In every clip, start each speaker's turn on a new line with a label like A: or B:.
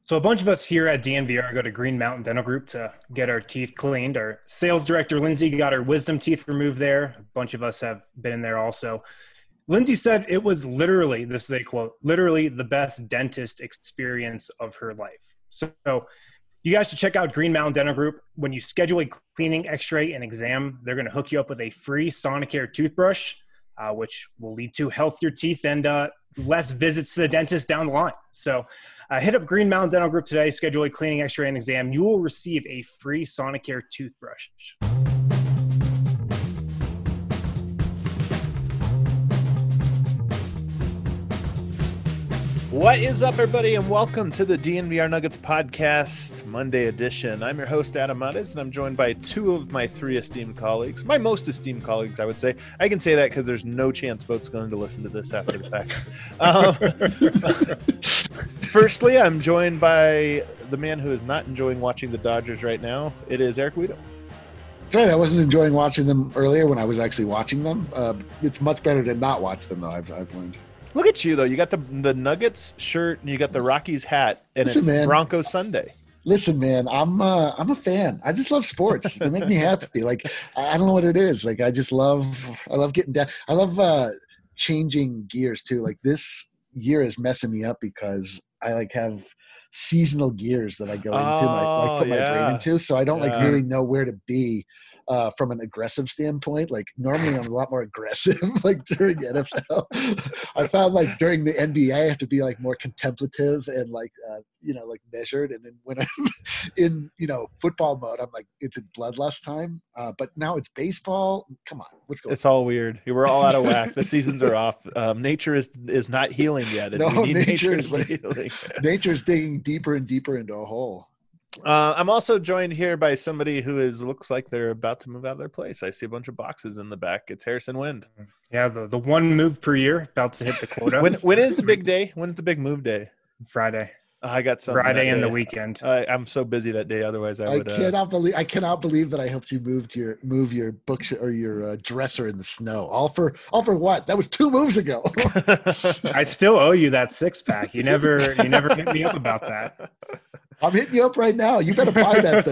A: So a bunch of us here at DNVR go to Green Mountain Dental Group to get our teeth cleaned. Our sales director, Lindsay, got her wisdom teeth removed there. A bunch of us have been in there also. Lindsay said it was literally, this is a quote, literally the best dentist experience of her life. So you guys should check out Green Mountain Dental Group. When you schedule a cleaning, x-ray, and exam, they're going to hook you up with a free Sonicare toothbrush, which will lead to healthier teeth and less visits to the dentist down the line. So hit up Green Mountain Dental Group today, schedule a cleaning, x-ray, and exam. You will receive a free Sonicare toothbrush.
B: What is up, everybody, and welcome to the DNVR Nuggets podcast, Monday edition. I'm your host, Adam Mattes, and I'm joined by two of my three esteemed colleagues, my most esteemed colleagues, I would say. I can say that because there's no chance folks going to listen to this after the fact. Firstly, I'm joined by the man who is not enjoying watching the Dodgers right now. It is Eric Weedham.
C: Right, I wasn't enjoying watching them earlier when I was actually watching them. It's much better to not watch them, though, I've learned.
B: Look at you, though. You got the Nuggets shirt and you got the Rockies hat, and it's Broncos Sunday.
C: Listen, man, I'm a fan. I just love sports. They make me happy. Like, I don't know what it is. Like, I love getting down. I love changing gears too. Like, this year is messing me up because I have seasonal gears that I go into, put my brain into. So I don't really know where to be from an aggressive standpoint. Like, normally I'm a lot more aggressive, like during NFL. I found like during the NBA, I have to be like more contemplative and like measured. And then when I'm in, football mode, I'm like, it's a bloodlust time. But now it's baseball. Come on, what's going on?
B: It's all weird. We're all out of whack. The seasons are off. Nature is not healing yet. And we need nature is healing.
C: Nature's digging deeper and deeper into a hole.
B: I'm also joined here by somebody who looks like they're about to move out of their place. I see a bunch of boxes in the back. It's Harrison Wind.
A: Yeah, the one move per year, about to hit the quota.
B: When is the big day? When's the big move day?
A: Friday.
B: I got some
A: Friday and the weekend.
B: I'm so busy that day. Otherwise, I
C: cannot believe that I helped you move your book or your dresser in the snow. All for what? That was 2 moves ago.
A: I still owe you that 6-pack. You never hit me up about that.
C: I'm hitting you up right now. You better buy that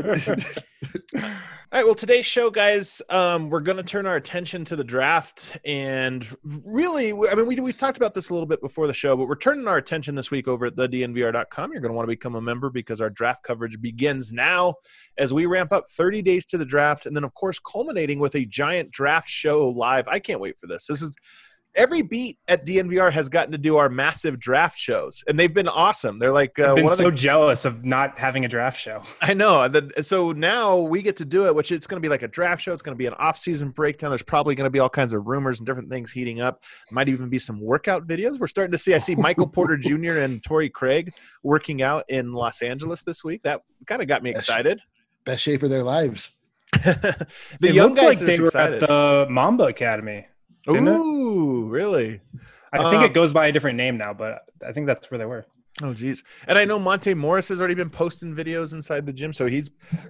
C: thing.
B: All right, well, today's show, guys, we're going to turn our attention to the draft. And really, I mean, we've talked about this a little bit before the show, but we're turning our attention this week over at thednvr.com. You're going to want to become a member because our draft coverage begins now as we ramp up 30 days to the draft. And then, of course, culminating with a giant draft show live. I can't wait for this. Every beat at DNVR has gotten to do our massive draft shows, and they've been awesome. They're like,
A: I've been so jealous of not having a draft show.
B: I know. So now we get to do it, which it's going to be like a draft show. It's going to be an off-season breakdown. There's probably going to be all kinds of rumors and different things heating up. Might even be some workout videos. We're starting to see. I see Michael Porter Jr. and Torrey Craig working out in Los Angeles this week. That kind of got me excited.
C: Best shape of their lives.
A: The young guys like they were at the Mamba Academy.
B: Ooh, really?
A: I think it goes by a different name now, but I think that's where they were.
B: Oh, geez. And I know Monte Morris has already been posting videos inside the gym, so he's,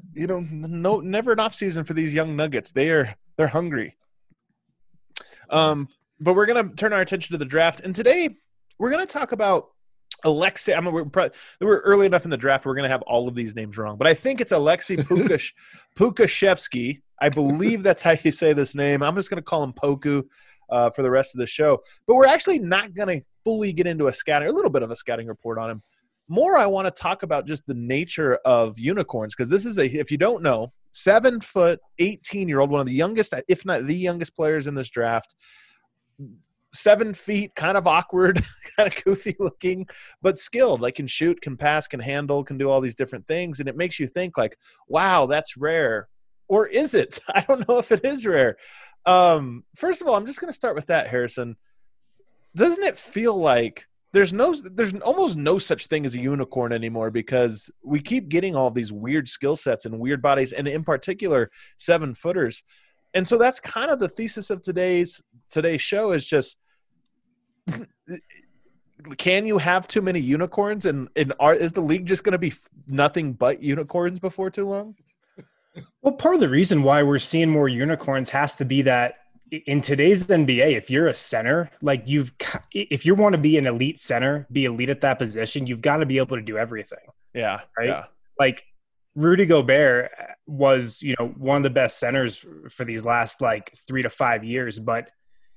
B: never an off season for these young Nuggets. They're hungry. But we're going to turn our attention to the draft, and today we're going to talk about Alexei. I mean, we're early enough in the draft. We're going to have all of these names wrong, but I think it's Alexei Pukashevsky. I believe that's how you say this name. I'm just going to call him Poku for the rest of the show. But we're actually not going to fully get into a little bit of a scouting report on him. More, I want to talk about just the nature of unicorns, because this is if you don't know, 7 foot, 18-year-old, one of the youngest, if not the youngest players in this draft. 7 feet, kind of awkward, kind of goofy looking, but skilled. Like, can shoot, can pass, can handle, can do all these different things. And it makes you think like, wow, that's rare. Or is it? I don't know if it is rare. First of all, I'm just going to start with that, Harrison. Doesn't it feel like there's almost no such thing as a unicorn anymore, because we keep getting all these weird skill sets and weird bodies, and in particular 7-footers. And so that's kind of the thesis of today's show, is just, can you have too many unicorns, and is the league just going to be nothing but unicorns before too long?
A: Well, part of the reason why we're seeing more unicorns has to be that in today's NBA, if you're a center, like if you want to be an elite center, be elite at that position, you've got to be able to do everything.
B: Yeah.
A: Right.
B: Yeah.
A: Like Rudy Gobert was, one of the best centers for these last like 3 to 5 years. But,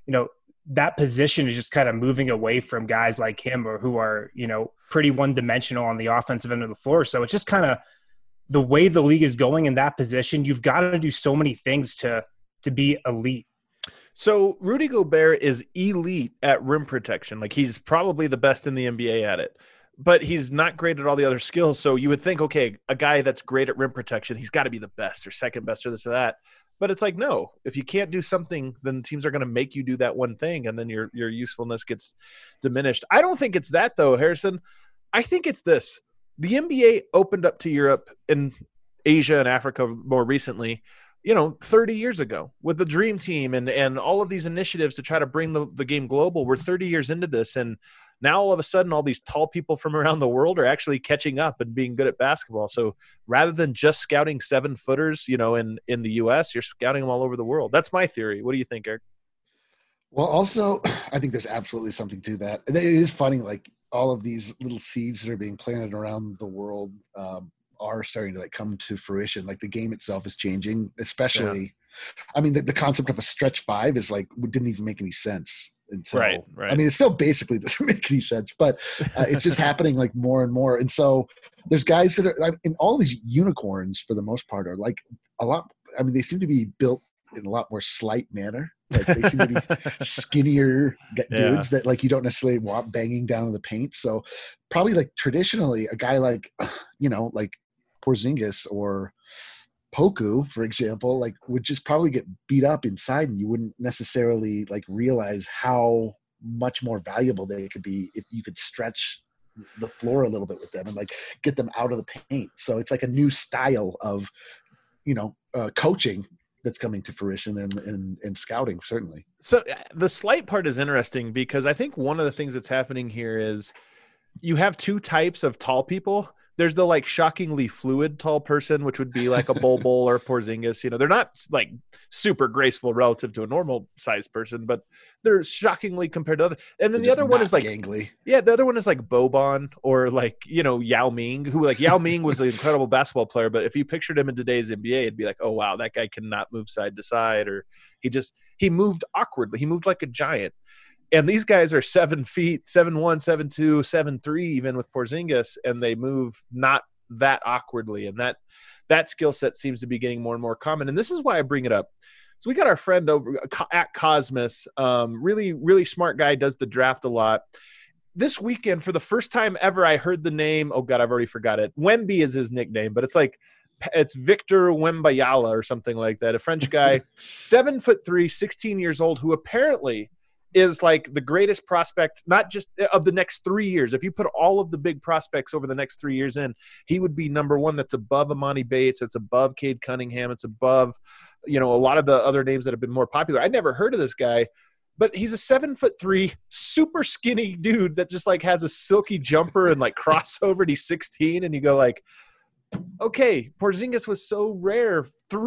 A: that position is just kind of moving away from guys like him or who are, pretty one-dimensional on the offensive end of the floor. So it's just kind of the way the league is going in that position. You've got to do so many things to be elite.
B: So Rudy Gobert is elite at rim protection. Like he's probably the best in the NBA at it, but he's not great at all the other skills. So you would think, okay, a guy that's great at rim protection, he's got to be the best or second best or this or that. But it's like, no, if you can't do something, then teams are going to make you do that one thing. And then your usefulness gets diminished. I don't think it's that though, Harrison. I think it's this. The NBA opened up to Europe and Asia and Africa more recently, 30 years ago with the Dream Team and all of these initiatives to try to bring the game global. We're 30 years into this. And now all of a sudden, all these tall people from around the world are actually catching up and being good at basketball. So rather than just scouting 7-footers, in the US, you're scouting them all over the world. That's my theory. What do you think, Eric?
C: Well, also, I think there's absolutely something to that. It is funny, like all of these little seeds that are being planted around the world are starting to like come to fruition. Like the game itself is changing, especially. Yeah. I mean, the concept of a stretch 5 is like didn't even make any sense until. Right. I mean, it still basically doesn't make any sense, but it's just happening like more and more. And so there's guys that are, and all these unicorns for the most part are like a lot. I mean, they seem to be built in a lot more slight manner. Like they seem to be skinnier dudes that like you don't necessarily want banging down in the paint. So probably like traditionally a guy like, like Porzingis or Poku, for example, like would just probably get beat up inside and you wouldn't necessarily like realize how much more valuable they could be if you could stretch the floor a little bit with them and like get them out of the paint. So it's like a new style of, coaching that's coming to fruition and scouting, certainly.
B: So the slight part is interesting because I think one of the things that's happening here is you have two types of tall people. There's the like shockingly fluid tall person, which would be like a Bol Bol or Porzingis. They're not like super graceful relative to a normal sized person, but they're shockingly compared to other. And then the other one is like
C: gangly.
B: Yeah, the other one is like Boban or like Yao Ming, who like Yao Ming was an incredible basketball player, but if you pictured him in today's NBA, it'd be like, oh wow, that guy cannot move side to side, or he moved awkwardly. He moved like a giant. And these guys are 7 feet, 7'1", 7'2", 7'3", even with Porzingis, and they move not that awkwardly. And that skill set seems to be getting more and more common. And this is why I bring it up. So we got our friend over at Cosmos, really, really smart guy, does the draft a lot. This weekend, for the first time ever, I heard the name. Oh God, I've already forgot it. Wemby is his nickname, but it's Victor Wembanyama or something like that. A French guy, 7'3", 16 years old, who apparently is like the greatest prospect, not just of the next 3 years. If you put all of the big prospects over the next 3 years in, he would be number one. That's above Amani Bates. It's above Cade Cunningham. It's above, a lot of the other names that have been more popular. I'd never heard of this guy, but he's a 7'3", super skinny dude that just like has a silky jumper and like crossover. And he's 16, and you go like, okay, Porzingis was so rare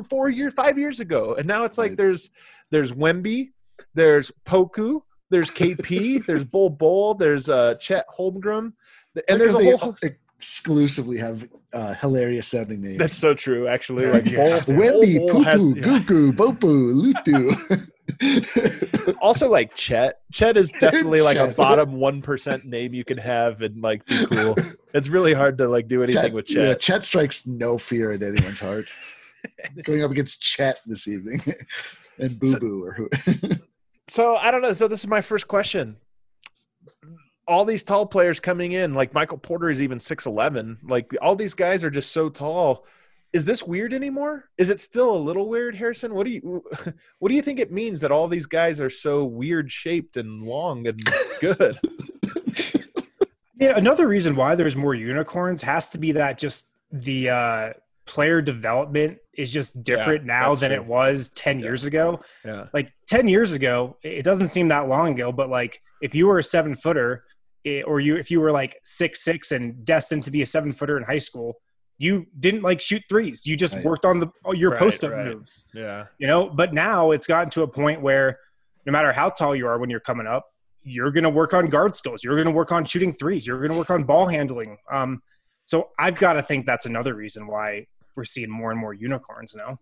B: 5 years ago, and now it's like there's Wemby. There's Poku, there's KP, there's Bol Bol, there's Chet Holmgren, and there's a whole
C: exclusively have hilarious sounding names.
B: That's so true, actually. Like
C: Wemby, Pupu, Gugu, Bopu, Lutu.
B: Also, like Chet is definitely like a bottom 1% name you can have and like be cool. It's really hard to like do anything with Chet.
C: Yeah, Chet strikes no fear in anyone's heart. Going up against Chet this evening. And Boo Boo or who?
B: So I don't know. So this is my first question. All these tall players coming in, like Michael Porter is even 6'11". Like all these guys are just so tall. Is this weird anymore? Is it still a little weird, Harrison? What do you think it means that all these guys are so weird shaped and long and good?
A: Yeah, another reason why there's more unicorns has to be that just the player development is just different now than it was 10 years ago.
B: Yeah.
A: Like 10 years ago, it doesn't seem that long ago, but like if you were a 7-footer if you were like 6'6" and destined to be a 7-footer in high school, You didn't like shoot threes. You just
C: Right.
A: worked on your
B: Right,
A: post-up
B: right.
A: moves.
B: Yeah.
A: But now it's gotten to a point where no matter how tall you are when you're coming up, you're going to work on guard skills. You're going to work on shooting threes. You're going to work on ball handling. So I've got to think that's another reason why we're seeing more and more unicorns now.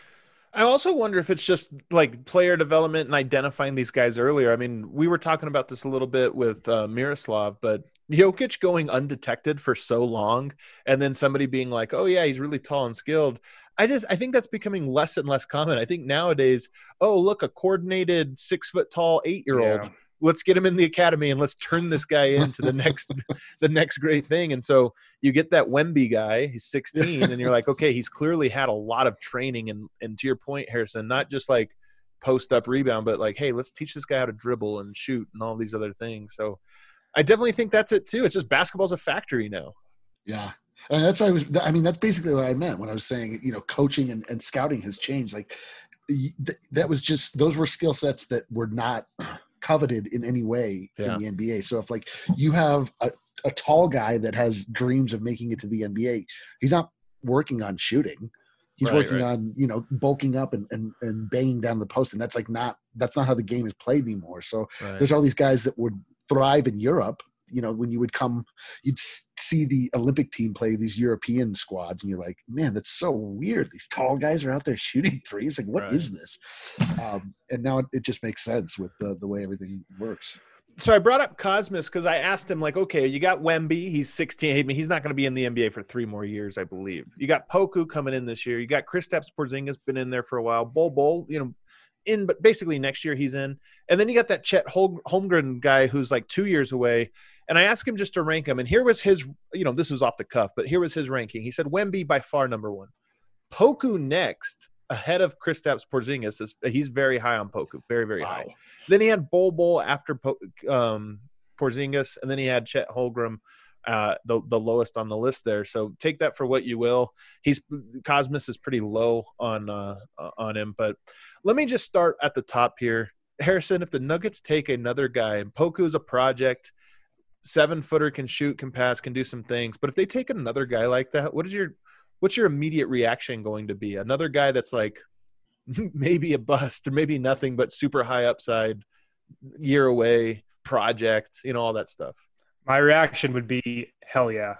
B: I also wonder if it's just like player development and identifying these guys earlier. I mean, we were talking about this a little bit with Miroslav, but Jokic going undetected for so long and then somebody being like, oh yeah, he's really tall and skilled. I think that's becoming less and less common. I think nowadays, oh, look, a coordinated 6 foot tall 8-year-old.
A: Yeah.
B: Let's get him in the academy and let's turn this guy into the next great thing. And so you get that Wemby guy, he's 16 and you're like, okay, he's clearly had a lot of training. And to your point, Harrison, not just like post up rebound, but like, hey, let's teach this guy how to dribble and shoot and all these other things. So I definitely think that's it too. It's just basketball's a factory now.
C: Yeah. And that's what that's basically what I meant when I was saying, coaching and scouting has changed. Like that was just, those were skill sets that were not coveted in any way in the NBA. So if like you have a tall guy that has dreams of making it to the NBA, he's not working on shooting. He's working on, bulking up and banging down the post. And that's not how the game is played anymore. So there's all these guys that would thrive in Europe. When you would come, you'd see the Olympic team play these European squads, and you're like, man, that's so weird. These tall guys are out there shooting threes. Like, what is this? And now it just makes sense with the way everything works.
B: So I brought up Cosmos because I asked him, like, okay, you got Wemby. He's 16. I mean, he's not going to be in the NBA for 3 more years, I believe. You got Poku coming in this year. You got Kristaps Porzingis been in there for a while. Bol, but basically next year he's in. And then you got that Chet Holmgren guy who's like 2 years away. And I asked him just to rank him. And here was his, this was off the cuff, but here was his ranking. He said Wemby by far number 1. Poku next, ahead of Kristaps Porzingis. He's very high on Poku, very, very high. Then he had Bol after Porzingis, and then he had Chet Holmgren, the lowest on the list there. So take that for what you will. Cosmos is pretty low on him. But let me just start at the top here. Harrison, if the Nuggets take another guy, and Poku's a project, 7-footer, can shoot, can pass, can do some things. But if they take another guy like that, what's your immediate reaction going to be? Another guy that's like maybe a bust or maybe nothing, but super high upside, year away, project, all that stuff.
A: My reaction would be, hell yeah.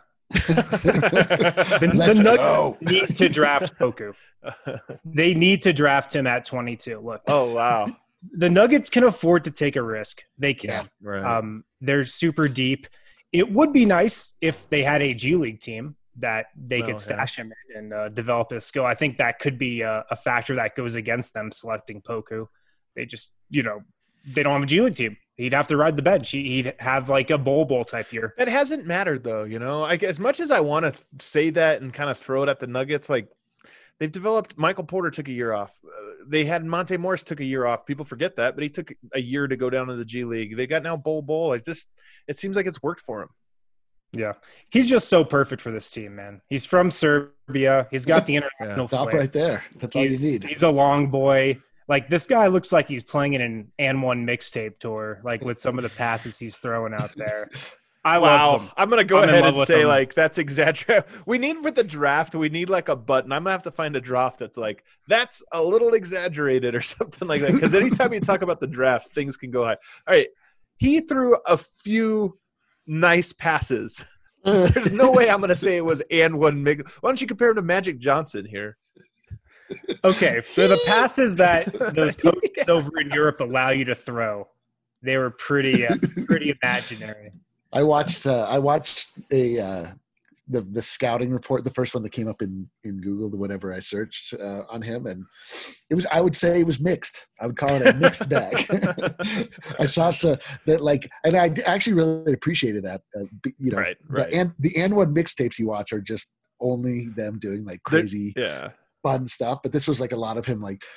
A: the Nuggets need to draft Poku. They need to draft him at 22. Look.
B: Oh, wow.
A: The Nuggets can afford to take a risk. They can.
B: Yeah, right.
A: They're super deep. It would be nice if they had a G League team that they could stash him in and develop his skill. I think that could be a factor that goes against them selecting Poku. They just, they don't have a G League team. He'd have to ride the bench. He'd have like a bowl type year.
B: It hasn't mattered though, as much as I want to say that and kind of throw it at the Nuggets, like they've developed. Michael Porter took a year off. They had Monte Morris took a year off. People forget that, but he took a year to go down to the G League. They got now Bol. Like this, it seems like it's worked for him.
A: Yeah, he's just so perfect for this team, man. He's from Serbia. He's got the international
C: stop
A: flair.
C: right there. That's all you need.
A: He's a long boy. Like this guy looks like he's playing in an N1 mixtape tour, like with some of the passes he's throwing out there. I love him.
B: I'm gonna go ahead and say like that's exaggerated. We need for the draft. We need like a button. I'm gonna have to find a draft that's like that's a little exaggerated or something like that. Because anytime you talk about the draft, things can go high. All right, he threw a few nice passes. There's no way I'm gonna say it was N1 mix. Why don't you compare him to Magic Johnson here?
A: Okay, for the passes that those coaches over in Europe allow you to throw, they were pretty imaginary.
C: I watched the scouting report, the first one that came up in Google, whatever I searched on him, and I would say it was mixed. I would call it a mixed bag. I saw that and I actually really appreciated that.
B: Right.
C: The N1 mixtapes you watch are just only them doing like crazy fun stuff, but this was like a lot of him like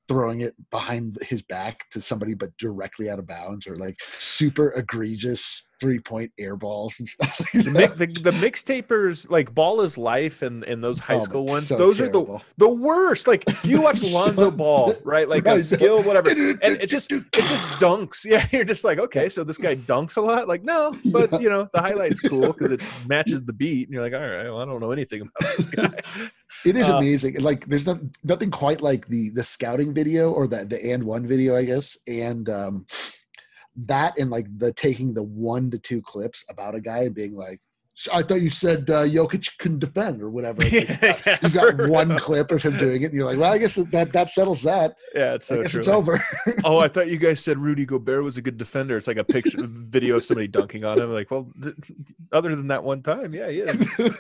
C: throwing it behind his back to somebody, but directly out of bounds, or like super egregious 3-point air balls and stuff like that.
B: The mixtapers, like Ball is Life and those high school ones,
C: so
B: those
C: terrible.
B: are the worst. Like you watch Lonzo Ball, right? Like a skill, whatever, and it just dunks. Yeah, you're just like, okay, so this guy dunks a lot. Like, no, but the highlight's cool because it matches the beat, and you're like, all right, well, I don't know anything about this guy.
C: It is amazing. Like there's nothing quite like the scouting video or the and one video, I guess, and that and like the taking the 1 to 2 clips about a guy and being like, I thought you said Jokic couldn't defend or whatever. Like, you've got one clip of him doing it, and you're like, well, I guess that settles that.
B: Yeah, it's so
C: I guess
B: true.
C: it's over.
B: Oh, I thought you guys said Rudy Gobert was a good defender. It's like a picture, video of somebody dunking on him. Like, well, other than that one time, yeah, he is.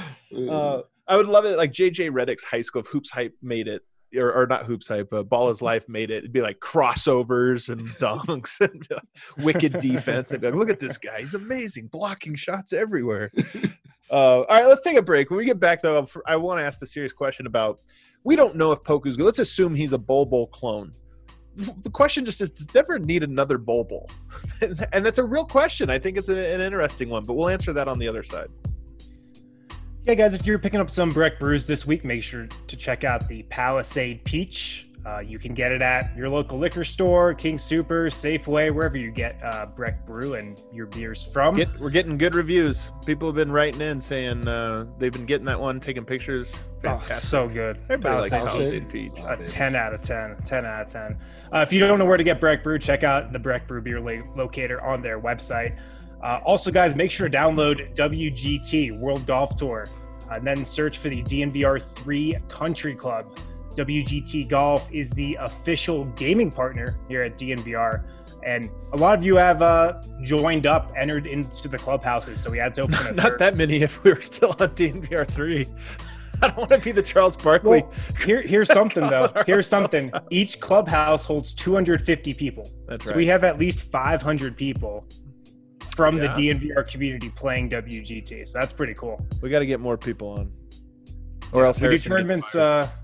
B: I would love it. Like JJ Redick's high school, if Hoops Hype made it, or not Hoops Hype, but Ball is Life made it. It'd be like crossovers and dunks and wicked defense. They'd be like, look at this guy. He's amazing. Blocking shots everywhere. All right, let's take a break. When we get back, though, I want to ask the serious question about, we don't know if Poku's good. Let's assume he's a Bol clone. The question just is, does Denver need another Bol? And that's a real question. I think it's an interesting one, but we'll answer that on the other side.
A: Yeah, guys, if you're picking up some Breck brews this week, make sure to check out the Palisade Peach. You can get it at your local liquor store, King Super, Safeway, wherever you get Breck brew and your beers from.
B: We're getting good reviews. People have been writing in saying they've been getting that one, taking pictures. Fantastic.
A: Oh, so good.
B: Everybody likes
A: Palisade
B: Peach.
A: A 10 out of 10. 10 out of 10. If you don't know where to get Breck brew, check out the Breck brew beer locator on their website. Also, guys, make sure to download WGT World Golf Tour and then search for the DNVR 3 Country Club. WGT Golf is the official gaming partner here at DNVR. And a lot of you have entered into the clubhouses. So we had to open
B: Not that many if we were still on DNVR 3. I don't want to be the Charles Barkley.
A: Well, here's something, though. Here's something. Each clubhouse holds 250 people.
B: That's
A: so
B: right.
A: we have at least 500 people from the DNVR community playing WGT. So that's pretty cool.
B: We got to get more people on. Or else
A: we do
B: Harrison
A: tournaments.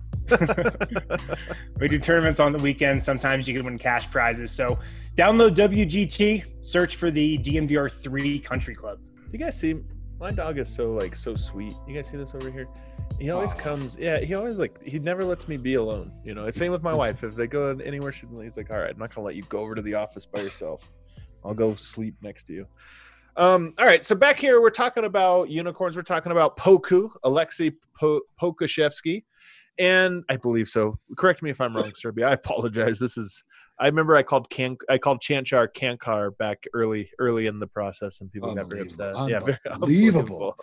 A: We do tournaments on the weekend. Sometimes you can win cash prizes. So download WGT, search for the DNVR 3 Country Club.
B: You guys see, my dog is so sweet. You guys see this over here? He always comes. Yeah, he always he never lets me be alone. It's same with my wife. If they go anywhere, he's like, all right, I'm not gonna let you go over to the office by yourself. I'll go sleep next to you. All right, so back here we're talking about unicorns. We're talking about Poku, Alexei Pokusevski, and I believe so. Correct me if I'm wrong, Serby. I apologize. I remember I called Chanchar Kankar back early in the process, and people got very upset. Yeah, very
C: unbelievable.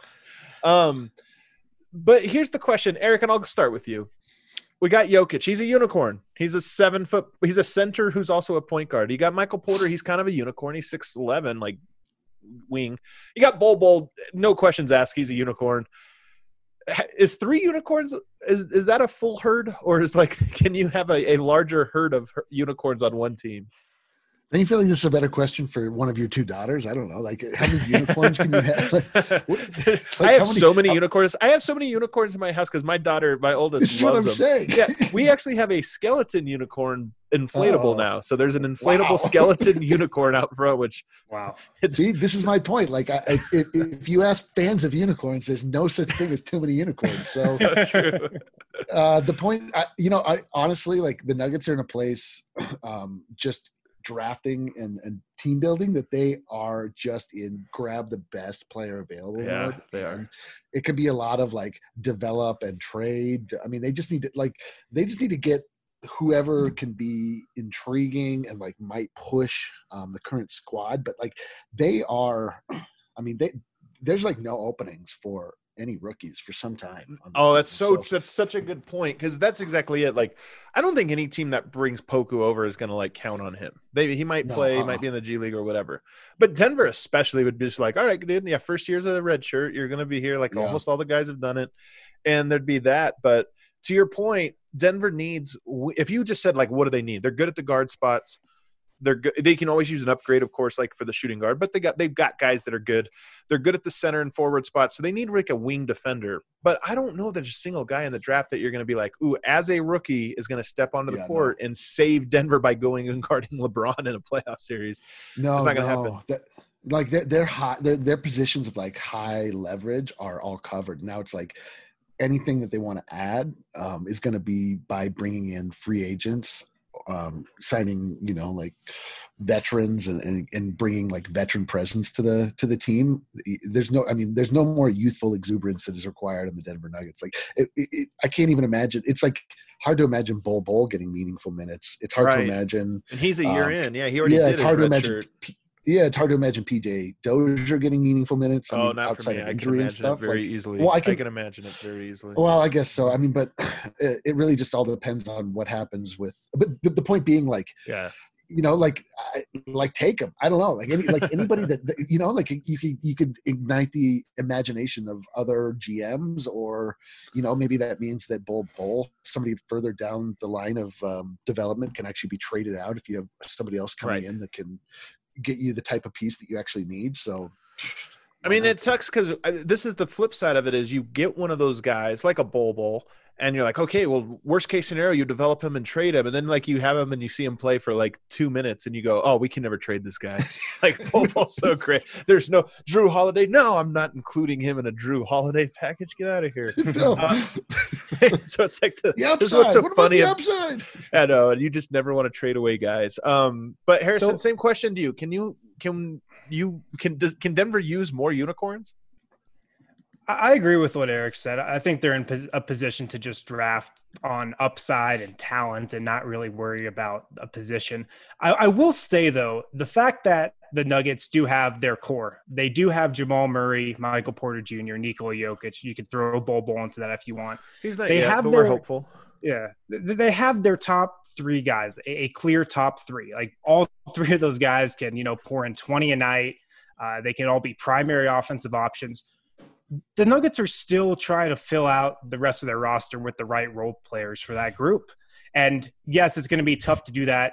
B: But here's the question, Eric, and I'll start with you. We got Jokic. He's a unicorn. He's a 7 foot. He's a center who's also a point guard. You got Michael Porter. He's kind of a unicorn. He's 6'11", like wing. You got Bol. No questions asked. He's a unicorn. Is 3 unicorns? Is that a full herd, or is can you have a larger herd of unicorns on one team?
C: Don't you feel like this is a better question for one of your 2 daughters? I don't know. How many unicorns can you have?
B: I have so many unicorns. I have so many unicorns in my house because my daughter, my oldest,
C: this is loves what I'm
B: them.
C: saying.
B: Yeah, we actually have a skeleton unicorn inflatable now. So there's an inflatable skeleton unicorn out front. Which
C: See, this is my point. If you ask fans of unicorns, there's no such thing as too many unicorns. So
B: true.
C: The point, I honestly the Nuggets are in a place just drafting and team building that they are just in grab the best player available mode.
B: They are.
C: It can be a lot of develop and trade. I mean, they just need to get whoever can be intriguing and might push the current squad, but there's no openings for any rookies for some time.
B: That's such a good point, because that's exactly it. I don't think any team that brings Poku over is going to count on him. Maybe he might play, might be in the G League or whatever. But Denver especially would be just all right, dude, yeah, first year's a red shirt. You're going to be here. Almost all the guys have done it, and there'd be that. But to your point, Denver needs. If you just said what do they need? They're good at the guard spots. they're good. They can always use an upgrade, of course, like for the shooting guard, but they've got guys that are good. They're good at the center and forward spots, so they need like a wing defender. But I don't know there's a single guy in the draft that you're going to be like, ooh, as a rookie is going to step onto the court and save Denver by going and guarding LeBron in a playoff series.
C: No,
B: it's not going to happen.
C: Like they're high, their positions of like high leverage are all covered. Now it's like anything that they want to add is going to be by bringing in free agents, signing, like veterans and bringing like veteran presence to the team. There's no more youthful exuberance that is required in the Denver Nuggets. Like I can't even imagine. It's like hard to imagine Bol getting meaningful minutes. It's hard to imagine.
B: And he's a year in. Yeah, he already did.
C: It's hard to imagine. It's hard to imagine PJ Dozier getting meaningful minutes.
B: Not
C: outside
B: for me.
C: of injury and stuff.
B: Very easily.
C: Well,
B: I can imagine it very easily.
C: Well, I guess so. I mean, but it really just all depends on what happens with. But the point being, like, take him. I don't know, anybody that like you could ignite the imagination of other GMs, or maybe that means that Bol, somebody further down the line of development, can actually be traded out if you have somebody else coming in that can get you the type of piece that you actually need. So
B: I mean, it sucks because this is the flip side of it, is you get one of those guys like a Bol and you're like, okay, well, worst case scenario, you develop him and trade him, and then like you have him and you see him play for like 2 minutes and you go, oh, we can never trade this guy. Like Bol's so great. There's no Drew Holiday. No, I'm not including him in a Drew Holiday package. Get out of here. So it's like this is what's so funny. I know, and you just never want to trade away guys. But Harrison, same question to you. Can Denver use more unicorns?
A: I agree with what Eric said. I think they're in a position to just draft on upside and talent and not really worry about a position. I will say, though, the fact that the Nuggets do have their core. They do have Jamal Murray, Michael Porter Jr., Nikola Jokic. You can throw Bol into that if you want.
B: He's not yet, but we're hopeful.
A: Yeah, they have their top three guys, a clear top three. Like all three of those guys can, pour in 20 a night. They can all be primary offensive options. The Nuggets are still trying to fill out the rest of their roster with the right role players for that group. And yes, it's going to be tough to do that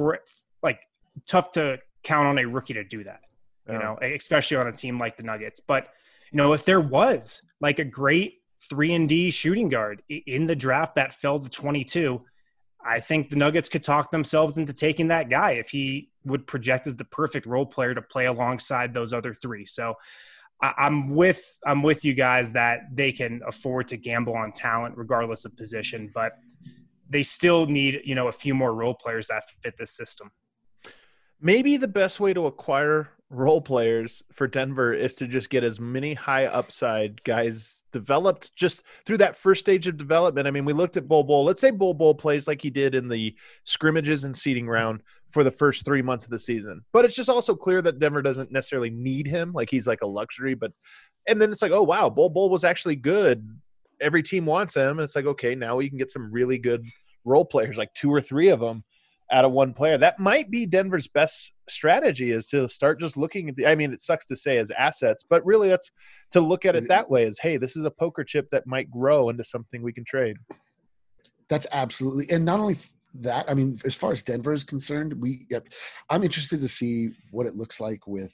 A: tough to count on a rookie to do that, especially on a team like the Nuggets. But, if there was like a great 3-and-D shooting guard in the draft that fell to 22, I think the Nuggets could talk themselves into taking that guy if he would project as the perfect role player to play alongside those other three. So I'm with you guys that they can afford to gamble on talent regardless of position, but they still need, a few more role players that fit this system.
B: Maybe the best way to acquire role players for Denver is to just get as many high upside guys developed just through that first stage of development. I mean, we looked at Bol. Let's say Bol plays like he did in the scrimmages and seeding round for the first 3 months of the season. But it's just also clear that Denver doesn't necessarily need him. Like he's like a luxury, and then it's like, oh wow, Bol was actually good. Every team wants him. And it's like, okay, now we can get some really good role players, like 2 or 3 of them out of one player. That might be Denver's best strategy, is to start just looking at it sucks to say as assets, but really that's to look at it that way, as, hey, this is a poker chip that might grow into something we can trade. That's absolutely. And not only that, I mean, as far as Denver is concerned, I'm interested to see what it looks like with,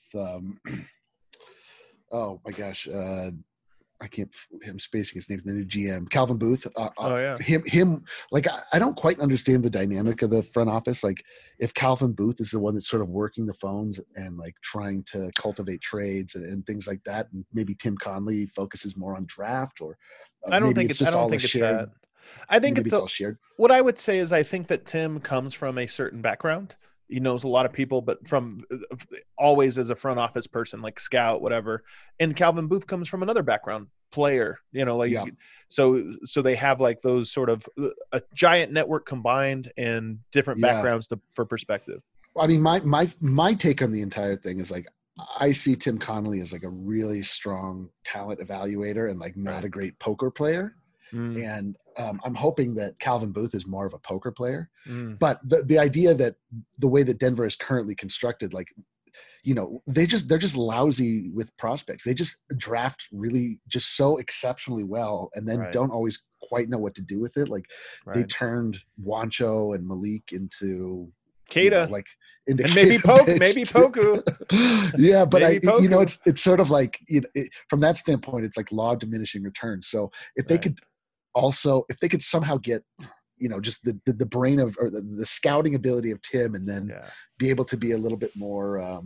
B: oh my gosh, I'm spacing his name, the new GM, Calvin Booth. Him. Like, I don't quite understand the dynamic of the front office. Like, if Calvin Booth is the one that's sort of working the phones and like trying to cultivate trades and things like that, and maybe Tim Conley focuses more on draft, or I don't think it's that. I think it's all shared. What I would say is, I think that Tim comes from a certain background. He knows a lot of people, but from always as a front office person, like scout, whatever. And Calvin Booth comes from another background, player, so they have like those sort of a giant network combined and different backgrounds for perspective. I mean, my take on the entire thing is like, I see Tim Connolly as like a really strong talent evaluator and like not a great poker player. And I'm hoping that Calvin Booth is more of a poker player. But the idea that the way that Denver is currently constructed, like, they're just lousy with prospects. They just draft really just so exceptionally well, and then don't always quite know what to do with it. Like they turned Juancho and Malik into Keita,
C: like
B: and maybe Poku.
C: Yeah, but
B: Poku.
C: it's sort of like from that standpoint, it's like law of diminishing returns. So if they could somehow get just the brain of or the scouting ability of Tim, and then be able to be a little bit more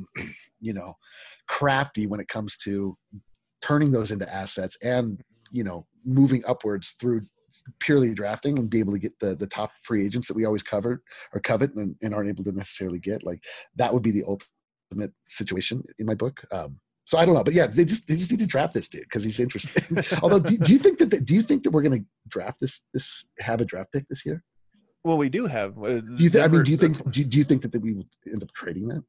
C: crafty when it comes to turning those into assets and moving upwards through purely drafting and be able to get the top free agents that we always covet and aren't able to necessarily get, like that would be the ultimate situation in my book. So I don't know, but yeah, they just need to draft this dude because he's interesting. Although, do you think that we're going to draft have a draft pick this year?
B: Well, we do have.
C: Do you think that we will end up trading that?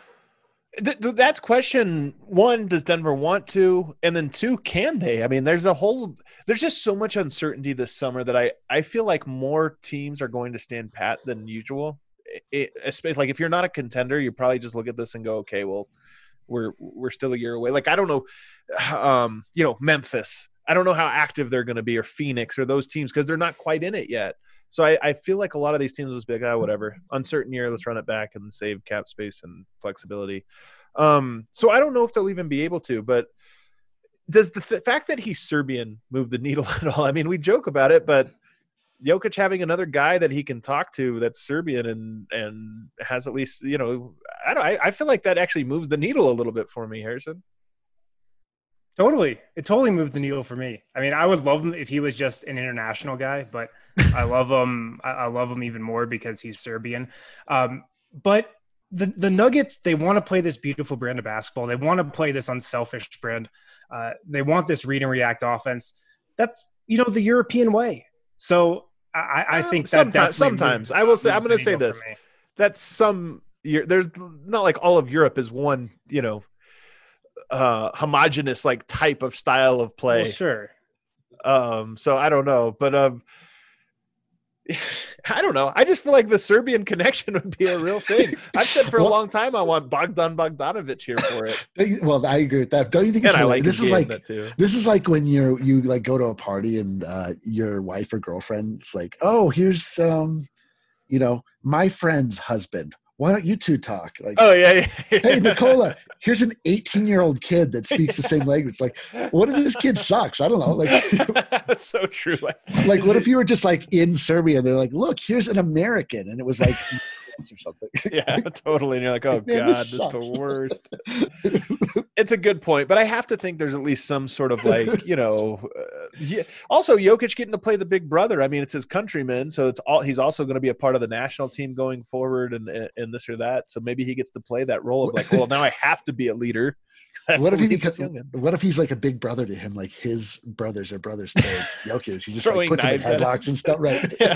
B: That's question one. Does Denver want to? And then two, can they? I mean, there's just so much uncertainty this summer that I feel like more teams are going to stand pat than usual. Especially like if you're not a contender, you probably just look at this and go, okay, well, we're still a year away. Like, I don't know, Memphis, I don't know how active they're going to be, or Phoenix, or those teams, because they're not quite in it yet. So I feel like a lot of these teams will be like, whatever, uncertain year, let's run it back and save cap space and flexibility. So I don't know if they'll even be able to, but does the fact that he's Serbian move the needle at all? I mean, we joke about it, but Jokic having another guy that he can talk to that's Serbian and has at least, I feel like that actually moves the needle a little bit for me, Harrison.
A: Totally. It totally moved the needle for me. I mean, I would love him if he was just an international guy, but I love him. I love him even more because he's Serbian. But the Nuggets, they want to play this beautiful brand of basketball. They want to play this unselfish brand. They want this read and react offense. That's, the European way. So I think that
B: sometimes I will say, I'm going to say this, that's there's not like all of Europe is one, homogenous like type of style of play.
A: Well, sure.
B: So I don't know, but I don't know. I just feel like the Serbian connection would be a real thing. I've said for a long time I want Bogdan Bogdanovic here for it.
C: Well, I agree with that. Don't you think it's this is like when you like go to a party and your wife or girlfriend's like, oh, here's my friend's husband. Why don't you two talk? Like,
B: oh yeah.
C: Hey, Nicola, here's an 18-year-old kid that speaks the same language. Like, what if this kid sucks? I don't know. Like,
B: that's so true.
C: Like, what if you were just like in Serbia? And they're like, look, here's an American, and it was like or something.
B: Yeah, totally. And you're like, oh man, God, this is the worst. It's a good point, but I have to think there's at least some sort of like, also Jokic getting to play the big brother. I mean, it's his countryman, so he's also going to be a part of the national team going forward and this or that. So maybe he gets to play that role of like, well, now I have to be a leader.
C: What if he's like a big brother to him? Like his brothers are brothers to Jokic. He just like puts him in headlocks and stuff, right?
B: Yeah,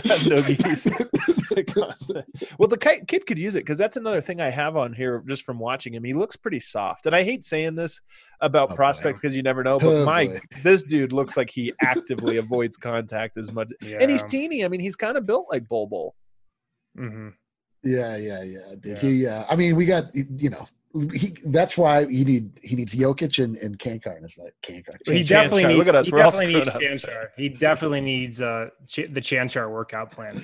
B: well, the kid could use it because that's another thing I have on here just from watching him. He looks pretty soft, and I hate saying this about prospects because you never know. But this dude looks like he actively avoids contact as much, and he's teeny. I mean, he's kind of built like Bol Bol.
C: Mm-hmm. Yeah, dude. Yeah. I mean, we got that's why he needs Jokic and Kangar in his life.
A: He definitely needs.
B: Look at us.
A: He definitely needs Chanchar. He definitely needs the Chanchar workout plan.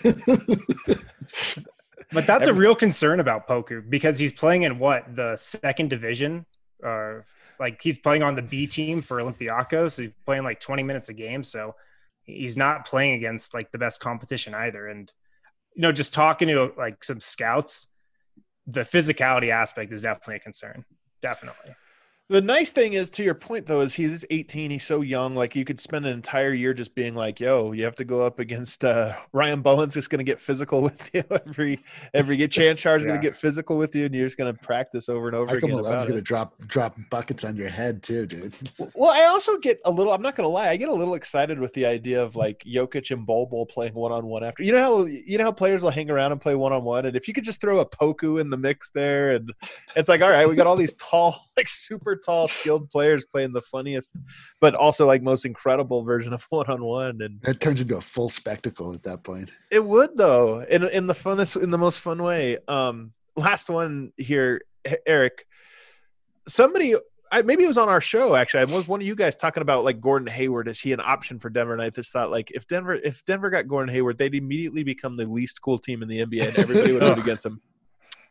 A: But that's a real concern about Poku because he's playing in the second division, like he's playing on the B team for Olympiacos. So he's playing like 20 minutes a game, so he's not playing against like the best competition either. And just talking to like some scouts, the physicality aspect is definitely a concern. Definitely.
B: The nice thing is, to your point, though, is he's 18. He's so young. Like, you could spend an entire year just being like, yo, you have to go up against Ryan Bowen's just going to get physical with you every Chanchar's going to get physical with you, and you're just going to practice over and over again.
C: Michael Malone's going to drop buckets on your head too, dude.
B: Well, I also get a little – I'm not going to lie. I get a little excited with the idea of, like, Jokic and Bol Bol playing one-on-one after. You know how players will hang around and play one-on-one? And if you could just throw a Poku in the mix there, and it's like, all right, we got all these tall, like, super tall, skilled players playing the funniest, but also like most incredible version of one-on-one, and
C: it turns into a full spectacle at that point.
B: It would, though, in the most fun way. Last one here, Eric. Somebody, maybe it was on our show actually. Was one of you guys talking about like Gordon Hayward? Is he an option for Denver? And I just thought like if Denver got Gordon Hayward, they'd immediately become the least cool team in the NBA, and everybody would root against them.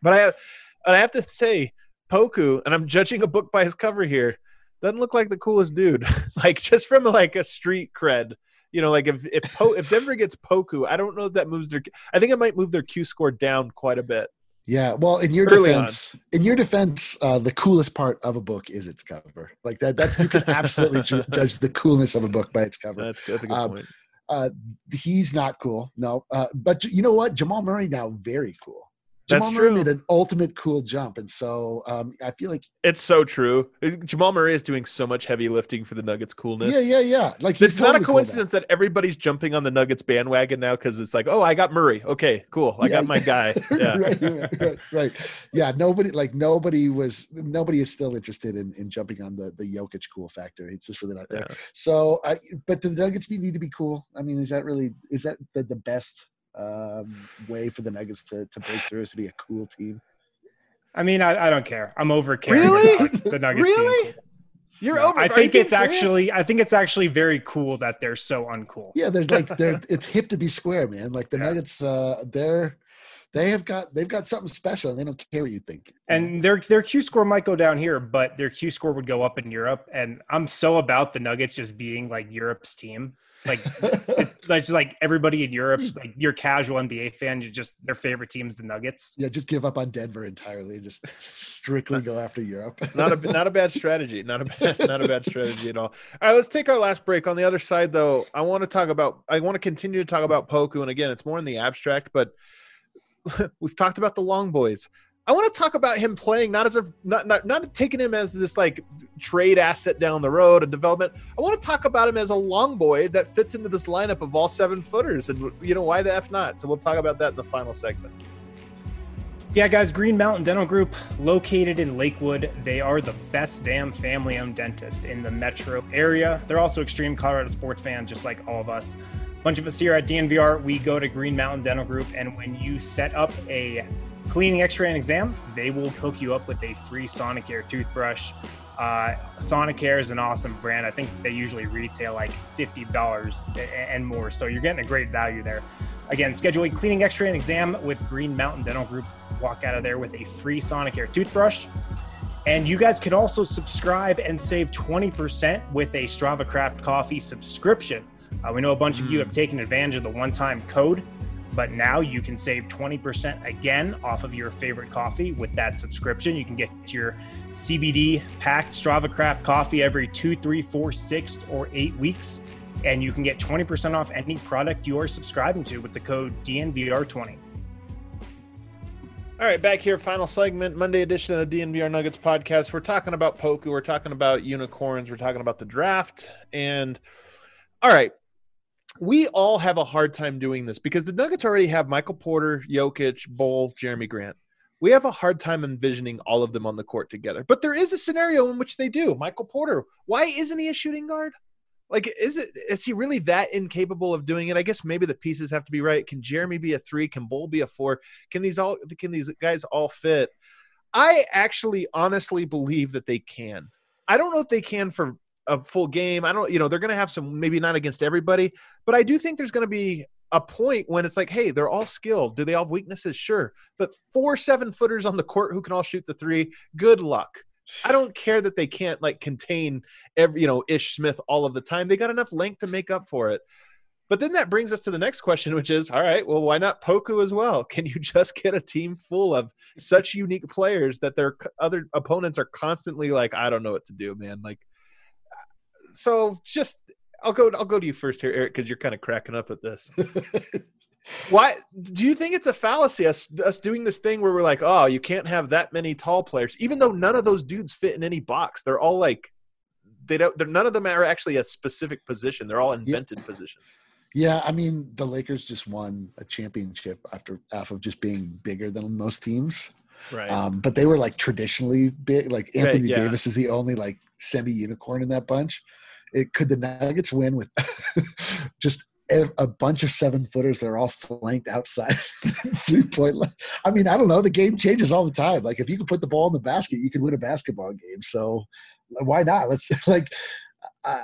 B: But I have to say, Poku, and I'm judging a book by his cover here, doesn't look like the coolest dude. Like just from like a street cred, like if Denver gets Poku, I don't know if that moves I think it might move their Q score down quite a bit.
C: Yeah, well, in your defense, the coolest part of a book is its cover. Like that you can absolutely judge the coolness of a book by its cover.
B: That's a good point.
C: He's not cool, no. But you know what? Jamal Murray now very cool.
B: That's
C: Jamal
B: true.
C: Murray made an ultimate cool jump, and so I feel like
B: it's so true. Jamal Murray is doing so much heavy lifting for the Nuggets' coolness.
C: Yeah. Like
B: it's not a coincidence that everybody's jumping on the Nuggets bandwagon now because it's like, oh, I got Murray. Okay, cool. I got my guy. Yeah,
C: right. Yeah, nobody is still interested in jumping on the Jokic cool factor. It's just really not there. Yeah. So, but do the Nuggets need to be cool? I mean, is that the best way for the Nuggets to break through, is to be a cool team?
A: I mean, I don't care. I'm over caring about the Nuggets
B: team. You're over.
A: I think it's actually very cool that they're so uncool.
C: Yeah, it's hip to be square, man. Like the Nuggets, they've got something special, and they don't care what you think.
A: And their Q score might go down here, but their Q score would go up in Europe. And I'm so about the Nuggets just being like Europe's team. Like, just like everybody in Europe, like your casual NBA fan, their favorite team's the Nuggets.
C: Yeah, just give up on Denver entirely and just strictly go after Europe.
B: Not a bad strategy. Not a bad strategy at all. All right, let's take our last break. On the other side, though, I want to continue to talk about Poku, and again, it's more in the abstract, but we've talked about the long boys. I want to talk about him playing not taking him as this like trade asset down the road and development. I want to talk about him as a long boy that fits into this lineup of all 7-footers, and why the F not? So we'll talk about that in the final segment.
A: Yeah, guys, Green Mountain Dental Group, located in Lakewood. They are the best damn family-owned dentist in the metro area. They're also extreme Colorado sports fans, just like all of us. A bunch of us here at DNVR, we go to Green Mountain Dental Group, and when you set up a cleaning, x-ray, and exam, they will hook you up with a free Sonicare toothbrush. Sonicare is an awesome brand. I think they usually retail like $50 and more, so you're getting a great value there. Again, schedule a cleaning, x-ray, and exam with Green Mountain Dental Group. Walk out of there with a free Sonicare toothbrush. And you guys can also subscribe and save 20% with a Strava Craft Coffee subscription. We know a bunch of you have taken advantage of the one-time code, but now you can save 20% again off of your favorite coffee with that subscription. You can get your CBD packed Strava Craft coffee every 2, 3, 4, 6, or 8 weeks. And you can get 20% off any product you are subscribing to with the code DNVR20.
B: All right, back here, final segment, Monday edition of the DNVR Nuggets podcast. We're talking about Poku. We're talking about unicorns. We're talking about the draft. And all right, we all have a hard time doing this because the Nuggets already have Michael Porter, Jokic, Bol, Jeremy Grant. We have a hard time envisioning all of them on the court together. But there is a scenario in which they do. Michael Porter, why isn't he a shooting guard? Like, is he really that incapable of doing it? I guess maybe the pieces have to be right. Can Jeremy be a 3? Can Bol be a 4? Can these guys all fit? I actually honestly believe that they can. I don't know if they can for a full game. I don't, they're going to have some, maybe not against everybody, but I do think there's going to be a point when it's like, hey, they're all skilled. Do they all have weaknesses? Sure. But 4 7-footers on the court who can all shoot the 3, good luck. I don't care that they can't contain every, Ish Smith all of the time. They got enough length to make up for it. But then that brings us to the next question, which is, all right, well, why not Poku as well? Can you just get a team full of such unique players that their other opponents are constantly like, I don't know what to do, man. So just I'll go to you first here, Eric, because you're kind of cracking up at this. Why do you think it's a fallacy us doing this thing where we're like, oh, you can't have that many tall players, even though none of those dudes fit in any box? They're all none of them are actually a specific position. They're all invented positions.
C: Yeah, I mean, the Lakers just won a championship off of just being bigger than most teams.
B: Right.
C: But they were traditionally big. Like Anthony Davis is the only semi-unicorn in that bunch. Could the Nuggets win with just a bunch of 7-footers that are all flanked outside 3-point line? I mean, I don't know. The game changes all the time. If you could put the ball in the basket, you could win a basketball game. So why not? Let's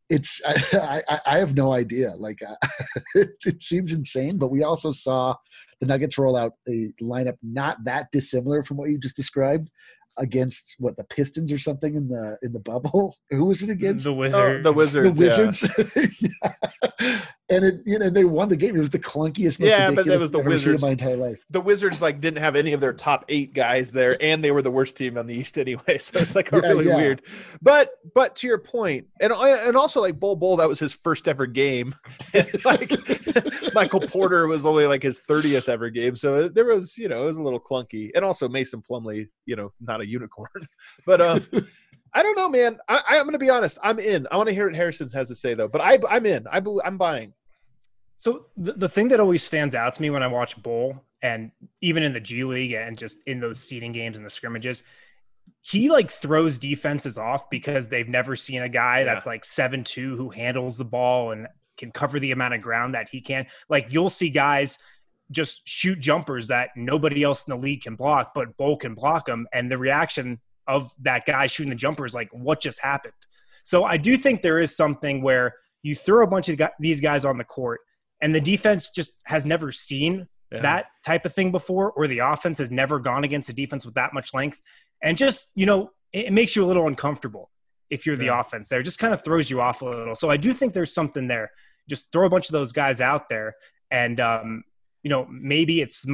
C: it's I have no idea. Like it seems insane, but we also saw the Nuggets roll out a lineup not that dissimilar from what you just described against the Pistons or something in the bubble. Who was it against?
A: The Wizards.
B: The Wizards.
C: The Wizards. Yeah. And they won the game. It was the clunkiest, most
B: Yeah, but that
C: ridiculous
B: was the
C: thing I've ever seen in
B: Wizards.
C: my entire life.
B: The Wizards didn't have any of their top 8 guys there, and they were the worst team on the East anyway. So it's really weird. But to your point, and also Bol, that was his first ever game. Michael Porter was only his 30th ever game. So there was, it was a little clunky. And also Mason Plumlee, not a unicorn. But I don't know, man. I'm going to be honest. I'm in. I want to hear what Harrison has to say, though. But I'm in. I'm buying.
A: So the thing that always stands out to me when I watch Bol, and even in the G League and just in those seeding games and the scrimmages, he throws defenses off because they've never seen a guy that's 7'2" who handles the ball and can cover the amount of ground that he can. You'll see guys just shoot jumpers that nobody else in the league can block, but Bol can block them. And the reaction of that guy shooting the jumper is what just happened? So I do think there is something where you throw a bunch of these guys on the court, and the defense just has never seen that type of thing before, or the offense has never gone against a defense with that much length. And just, it makes you a little uncomfortable if you're the offense there. It just kind of throws you off a little. So I do think there's something there. Just throw a bunch of those guys out there. And, maybe it's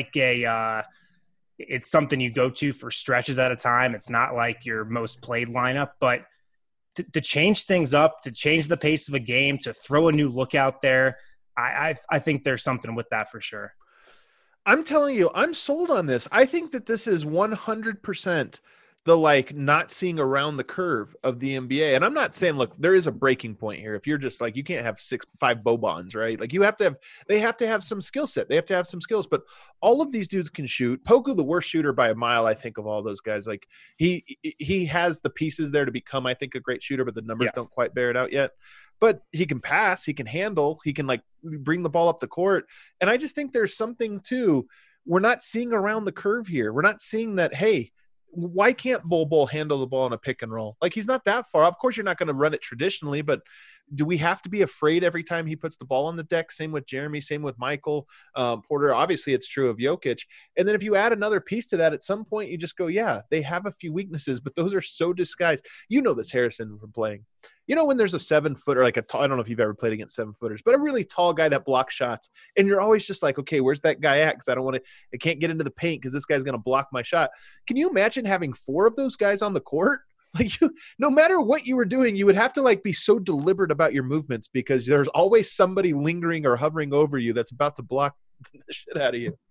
A: it's something you go to for stretches at a time. It's not your most played lineup, but to change things up, to change the pace of a game, to throw a new look out there, I think there's something with that for sure.
B: I'm telling you, I'm sold on this. I think that this is 100% the not seeing around the curve of the NBA. And I'm not saying, look, there is a breaking point here. If you're just you can't have 5 Bobans, right? They have to have some skill set. They have to have some skills, but all of these dudes can shoot. Poku, the worst shooter by a mile, I think, of all those guys. He has the pieces there to become, I think, a great shooter, but the numbers don't quite bear it out yet. But he can pass, he can handle, he can bring the ball up the court. And I just think there's something too. We're not seeing around the curve here. We're not seeing that, hey, why can't Bol handle the ball in a pick and roll? He's not that far. Of course, you're not going to run it traditionally, but do we have to be afraid every time he puts the ball on the deck? Same with Jeremy, same with Michael Porter. Obviously, it's true of Jokic. And then if you add another piece to that, at some point you just go, yeah, they have a few weaknesses, but those are so disguised. You know this, Harrison, from playing. When there's a 7-footer, I don't know if you've ever played against 7-footers, but a really tall guy that blocks shots, and you're always just okay, where's that guy at? Because I can't get into the paint because this guy's going to block my shot. Can you imagine having 4 of those guys on the court? No matter what you were doing, you would have to be so deliberate about your movements because there's always somebody lingering or hovering over you that's about to block the shit out of you.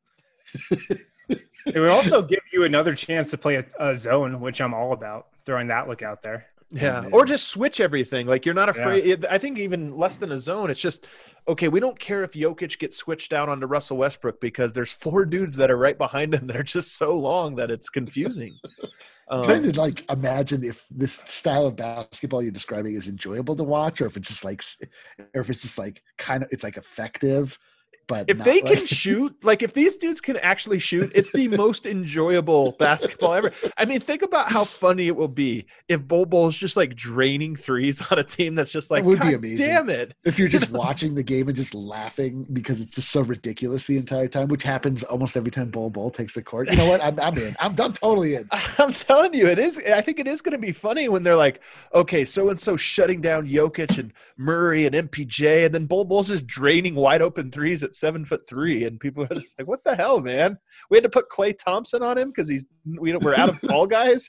A: It would also give you another chance to play a zone, which I'm all about, throwing that look out there.
B: Yeah, or just switch everything. You're not afraid. Yeah. I think even less than a zone, it's just, okay, we don't care if Jokic gets switched out onto Russell Westbrook because there's 4 dudes that are right behind him that are just so long that it's confusing.
C: Trying to imagine if this style of basketball you're describing is enjoyable to watch, or if it's just it's effective. But
B: if they can shoot, if these dudes can actually shoot, it's the most enjoyable basketball ever. I mean, think about how funny it will be if Bol is just draining threes on a team that's just
C: it would be amazing.
B: Damn it.
C: If you're just watching the game and just laughing because it's just so ridiculous the entire time, which happens almost every time Bol takes the court. You know what? I'm in. I'm totally in.
B: I'm telling you, it is. I think it is going to be funny when they're okay, so-and-so shutting down Jokic and Murray and MPJ, and then Bol's just draining wide open threes at 7'3", and people are just what the hell, man? We had to put Klay Thompson on him because we're out of tall guys.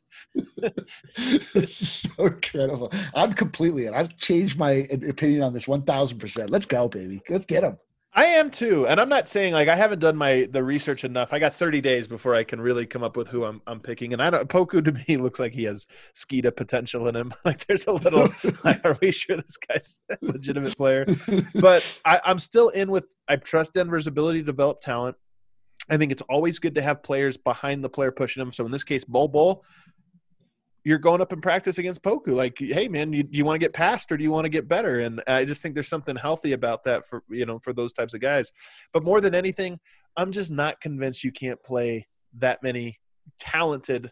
C: It's so incredible. I'm completely in. I've changed my opinion on this 1,000%. Let's go, baby. Let's get him.
B: I am too, and I'm not saying I haven't done the research enough. I got 30 days before I can really come up with who I'm picking, and Poku to me looks like he has Skeeta potential in him. There's a little. Are we sure this guy's a legitimate player? But I'm still in with. I trust Denver's ability to develop talent. I think it's always good to have players behind the player pushing them. So in this case, Bol. You're going up in practice against Poku. Hey man, do you want to get past or do you want to get better? And I just think there's something healthy about that for those types of guys. But more than anything, I'm just not convinced you can't play that many talented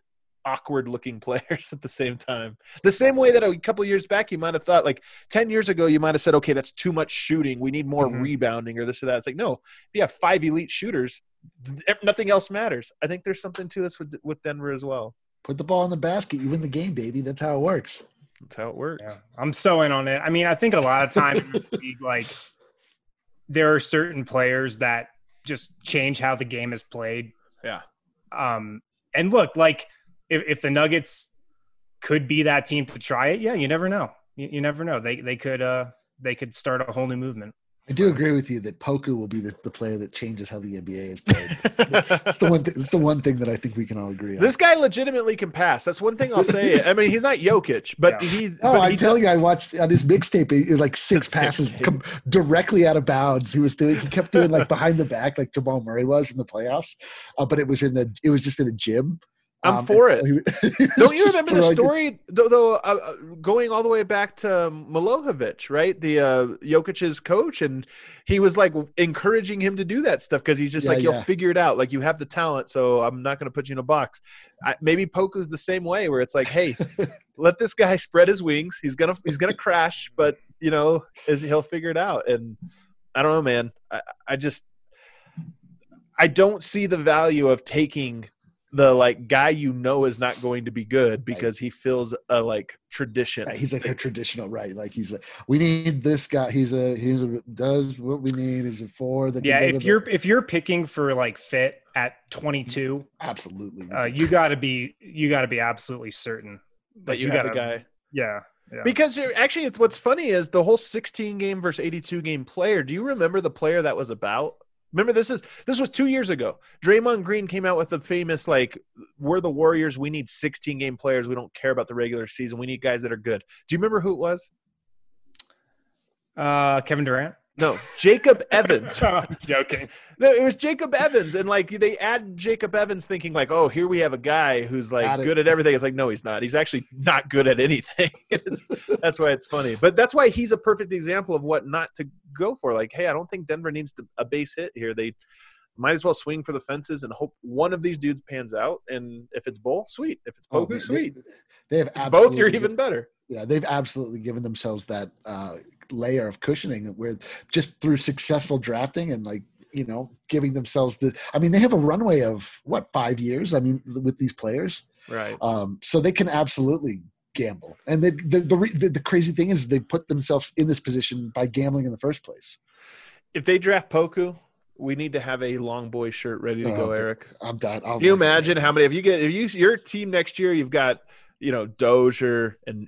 B: awkward looking players at the same time. The same way that a couple of years back you might have thought, like 10 years ago you might have said, okay, that's too much shooting, we need more rebounding or this or that. It's like, no, if you have 5 elite shooters, nothing else matters. I think there's something to this with Denver as well.
C: Put the ball in the basket, you win the game, baby. That's how it works.
B: That's how it works.
A: Yeah, I'm so in on it. I mean, I think a lot of times in this league, like there are certain players that just change how the game is played.
B: Yeah.
A: And look, like if the Nuggets could be that team to try it, yeah, you never know. You never know. They could start a whole new movement.
C: I do agree with you that Poku will be the player that changes how the NBA is played. It's the one thing that I think we can all agree on.
B: This guy legitimately can pass. That's one thing I'll say. I mean, he's not Jokic, but he's.
C: Oh, I'm telling you, I watched on his mixtape. It was like 6 passes directly out of bounds. He kept doing like behind the back, like Jamal Murray was in the playoffs. But it was just in a gym.
B: I'm for it. Don't you remember the story, though going all the way back to Milojevic, right? The Jokic's coach, and he was like encouraging him to do that stuff because he's just you'll figure it out. Like, you have the talent, so I'm not going to put you in a box. Maybe Poku's the same way, where it's like, hey, let this guy spread his wings. He's gonna crash, but he'll figure it out. And I don't know, man. I don't see the value of taking the guy is not going to be good because he fills a tradition.
C: Right. He's like a traditional, right? Like he's like, we need this guy. He's does what we need. Is it for the
A: if you're picking for fit at 22,
C: absolutely.
A: You got to be absolutely certain
B: that you have a guy.
A: Yeah.
B: Because it's what's funny is the whole 16 game versus 82 game player. Do you remember the player that was about? Remember, this was 2 years ago. Draymond Green came out with the famous, we're the Warriors. We need 16-game players. We don't care about the regular season. We need guys that are good. Do you remember who it was?
A: Kevin Durant?
B: No, Jacob Evans.
A: I'm joking.
B: No, it was Jacob Evans. And, they add Jacob Evans thinking, oh, here we have a guy who's, good at everything. It's like, no, he's not. He's actually not good at anything. That's why it's funny. But that's why he's a perfect example of what not to go for. Hey, I don't think Denver needs a base hit here. They might as well swing for the fences and hope one of these dudes pans out. And if it's Bull, sweet. If it's Poku, sweet.
C: They have
B: both, you're even better.
C: Yeah, they've absolutely given themselves that layer of cushioning where just through successful drafting and giving themselves they have a runway of 5 years. I mean, with these players,
B: right?
C: So they can absolutely gamble. And the crazy thing is they put themselves in this position by gambling in the first place.
B: If they draft Poku, we need to have a long boy shirt ready to go, Eric.
C: I'm done.
B: Can you imagine how many? If your team next year, you've got Dozier and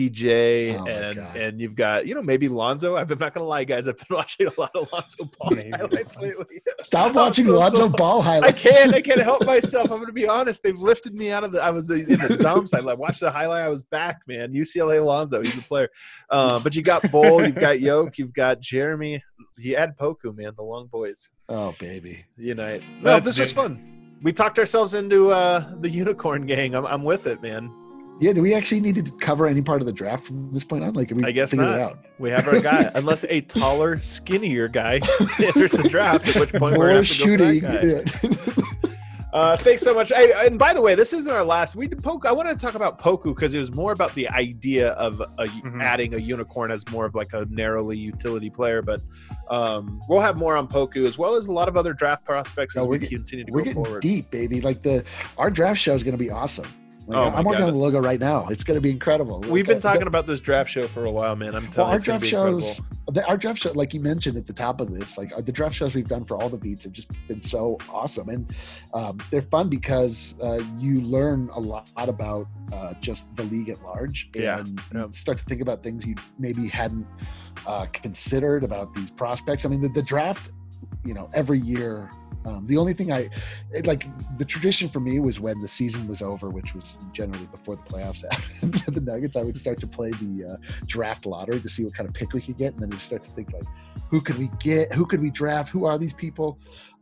B: MPJ and you've got maybe Lonzo. I'm not gonna lie, guys. I've been watching a lot of Lonzo Ball highlights lately.
C: Stop watching Lonzo Ball highlights.
B: I can't help myself. I'm gonna be honest. They've lifted me out of I was in the dumps. I watched the highlight. I was back, man. UCLA Lonzo, he's a player. But you got Bull, you've got Yoke, you've got Jeremy. You add Poku, man. The long boys.
C: Oh baby,
B: unite. No, this was fun. We talked ourselves into the unicorn gang. I'm with it, man.
C: Yeah, do we actually need to cover any part of the draft from this point on?
B: I guess not. It out? We have our guy, unless a taller, skinnier guy enters the draft, at which point we're going to have to go for that guy. Thanks so much. And by the way, this isn't our last. I wanted to talk about Poku because it was more about the idea of adding a unicorn as more of a narrowly utility player. But we'll have more on Poku as well as a lot of other draft prospects as we continue to go forward.
C: We're getting deep, baby. Our draft show is going to be awesome. I'm working on the logo right now. It's going to be incredible.
B: We've been talking about this draft show for a while, man. I'm telling you,
C: our draft show, like you mentioned at the top of this, the draft shows we've done for all the beats have just been so awesome, and they're fun because you learn a lot about just the league at large, and start to think about things you maybe hadn't considered about these prospects. I mean, the draft, every year. The only thing the tradition for me was when the season was over, which was generally before the playoffs happened for the Nuggets, I would start to play the draft lottery to see what kind of pick we could get. And then we'd start to think who could we get? Who could we draft? Who are these people?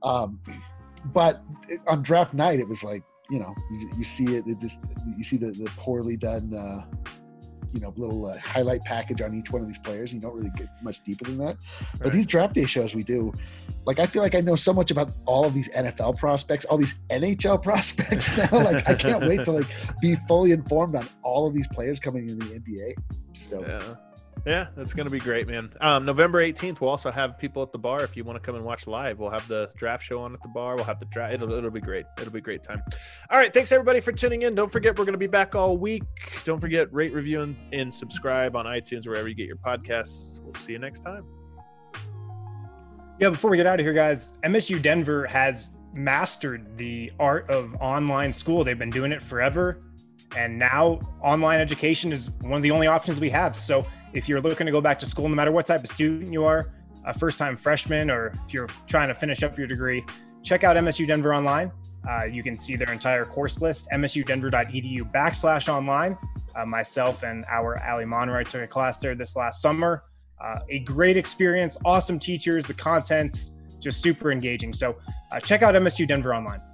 C: But on draft night, it was you see it. You see the poorly done little highlight package on each one of these players. You don't really get much deeper than that. But
B: Right.
C: these draft day shows we do, like, I feel like I know so much about all of these NFL prospects, all these NHL prospects now. Like, I can't wait to like be fully informed on all of these players coming in the NBA. So
B: Yeah, that's going to be great, man. November 18th, we'll also have people at the bar. If you want to come and watch live, we'll have the draft show on at the bar. We'll have the draft. It'll be great. It'll be a great time. All right. Thanks, everybody, for tuning in. Don't forget, we're going to be back all week. Don't forget, rate, review, and subscribe on iTunes, wherever you get your podcasts. We'll see you next time.
A: Yeah, before we get out of here, guys, MSU Denver has mastered the art of online school. They've been doing it forever. And now online education is one of the only options we have. So if you're looking to go back to school, no matter what type of student you are, a first-time freshman, or if you're trying to finish up your degree, check out MSU Denver Online. You can see their entire course list, msudenver.edu/online. Myself and our Ali Monroy took a class there this last summer. A great experience, awesome teachers, the content's just super engaging. So check out MSU Denver Online.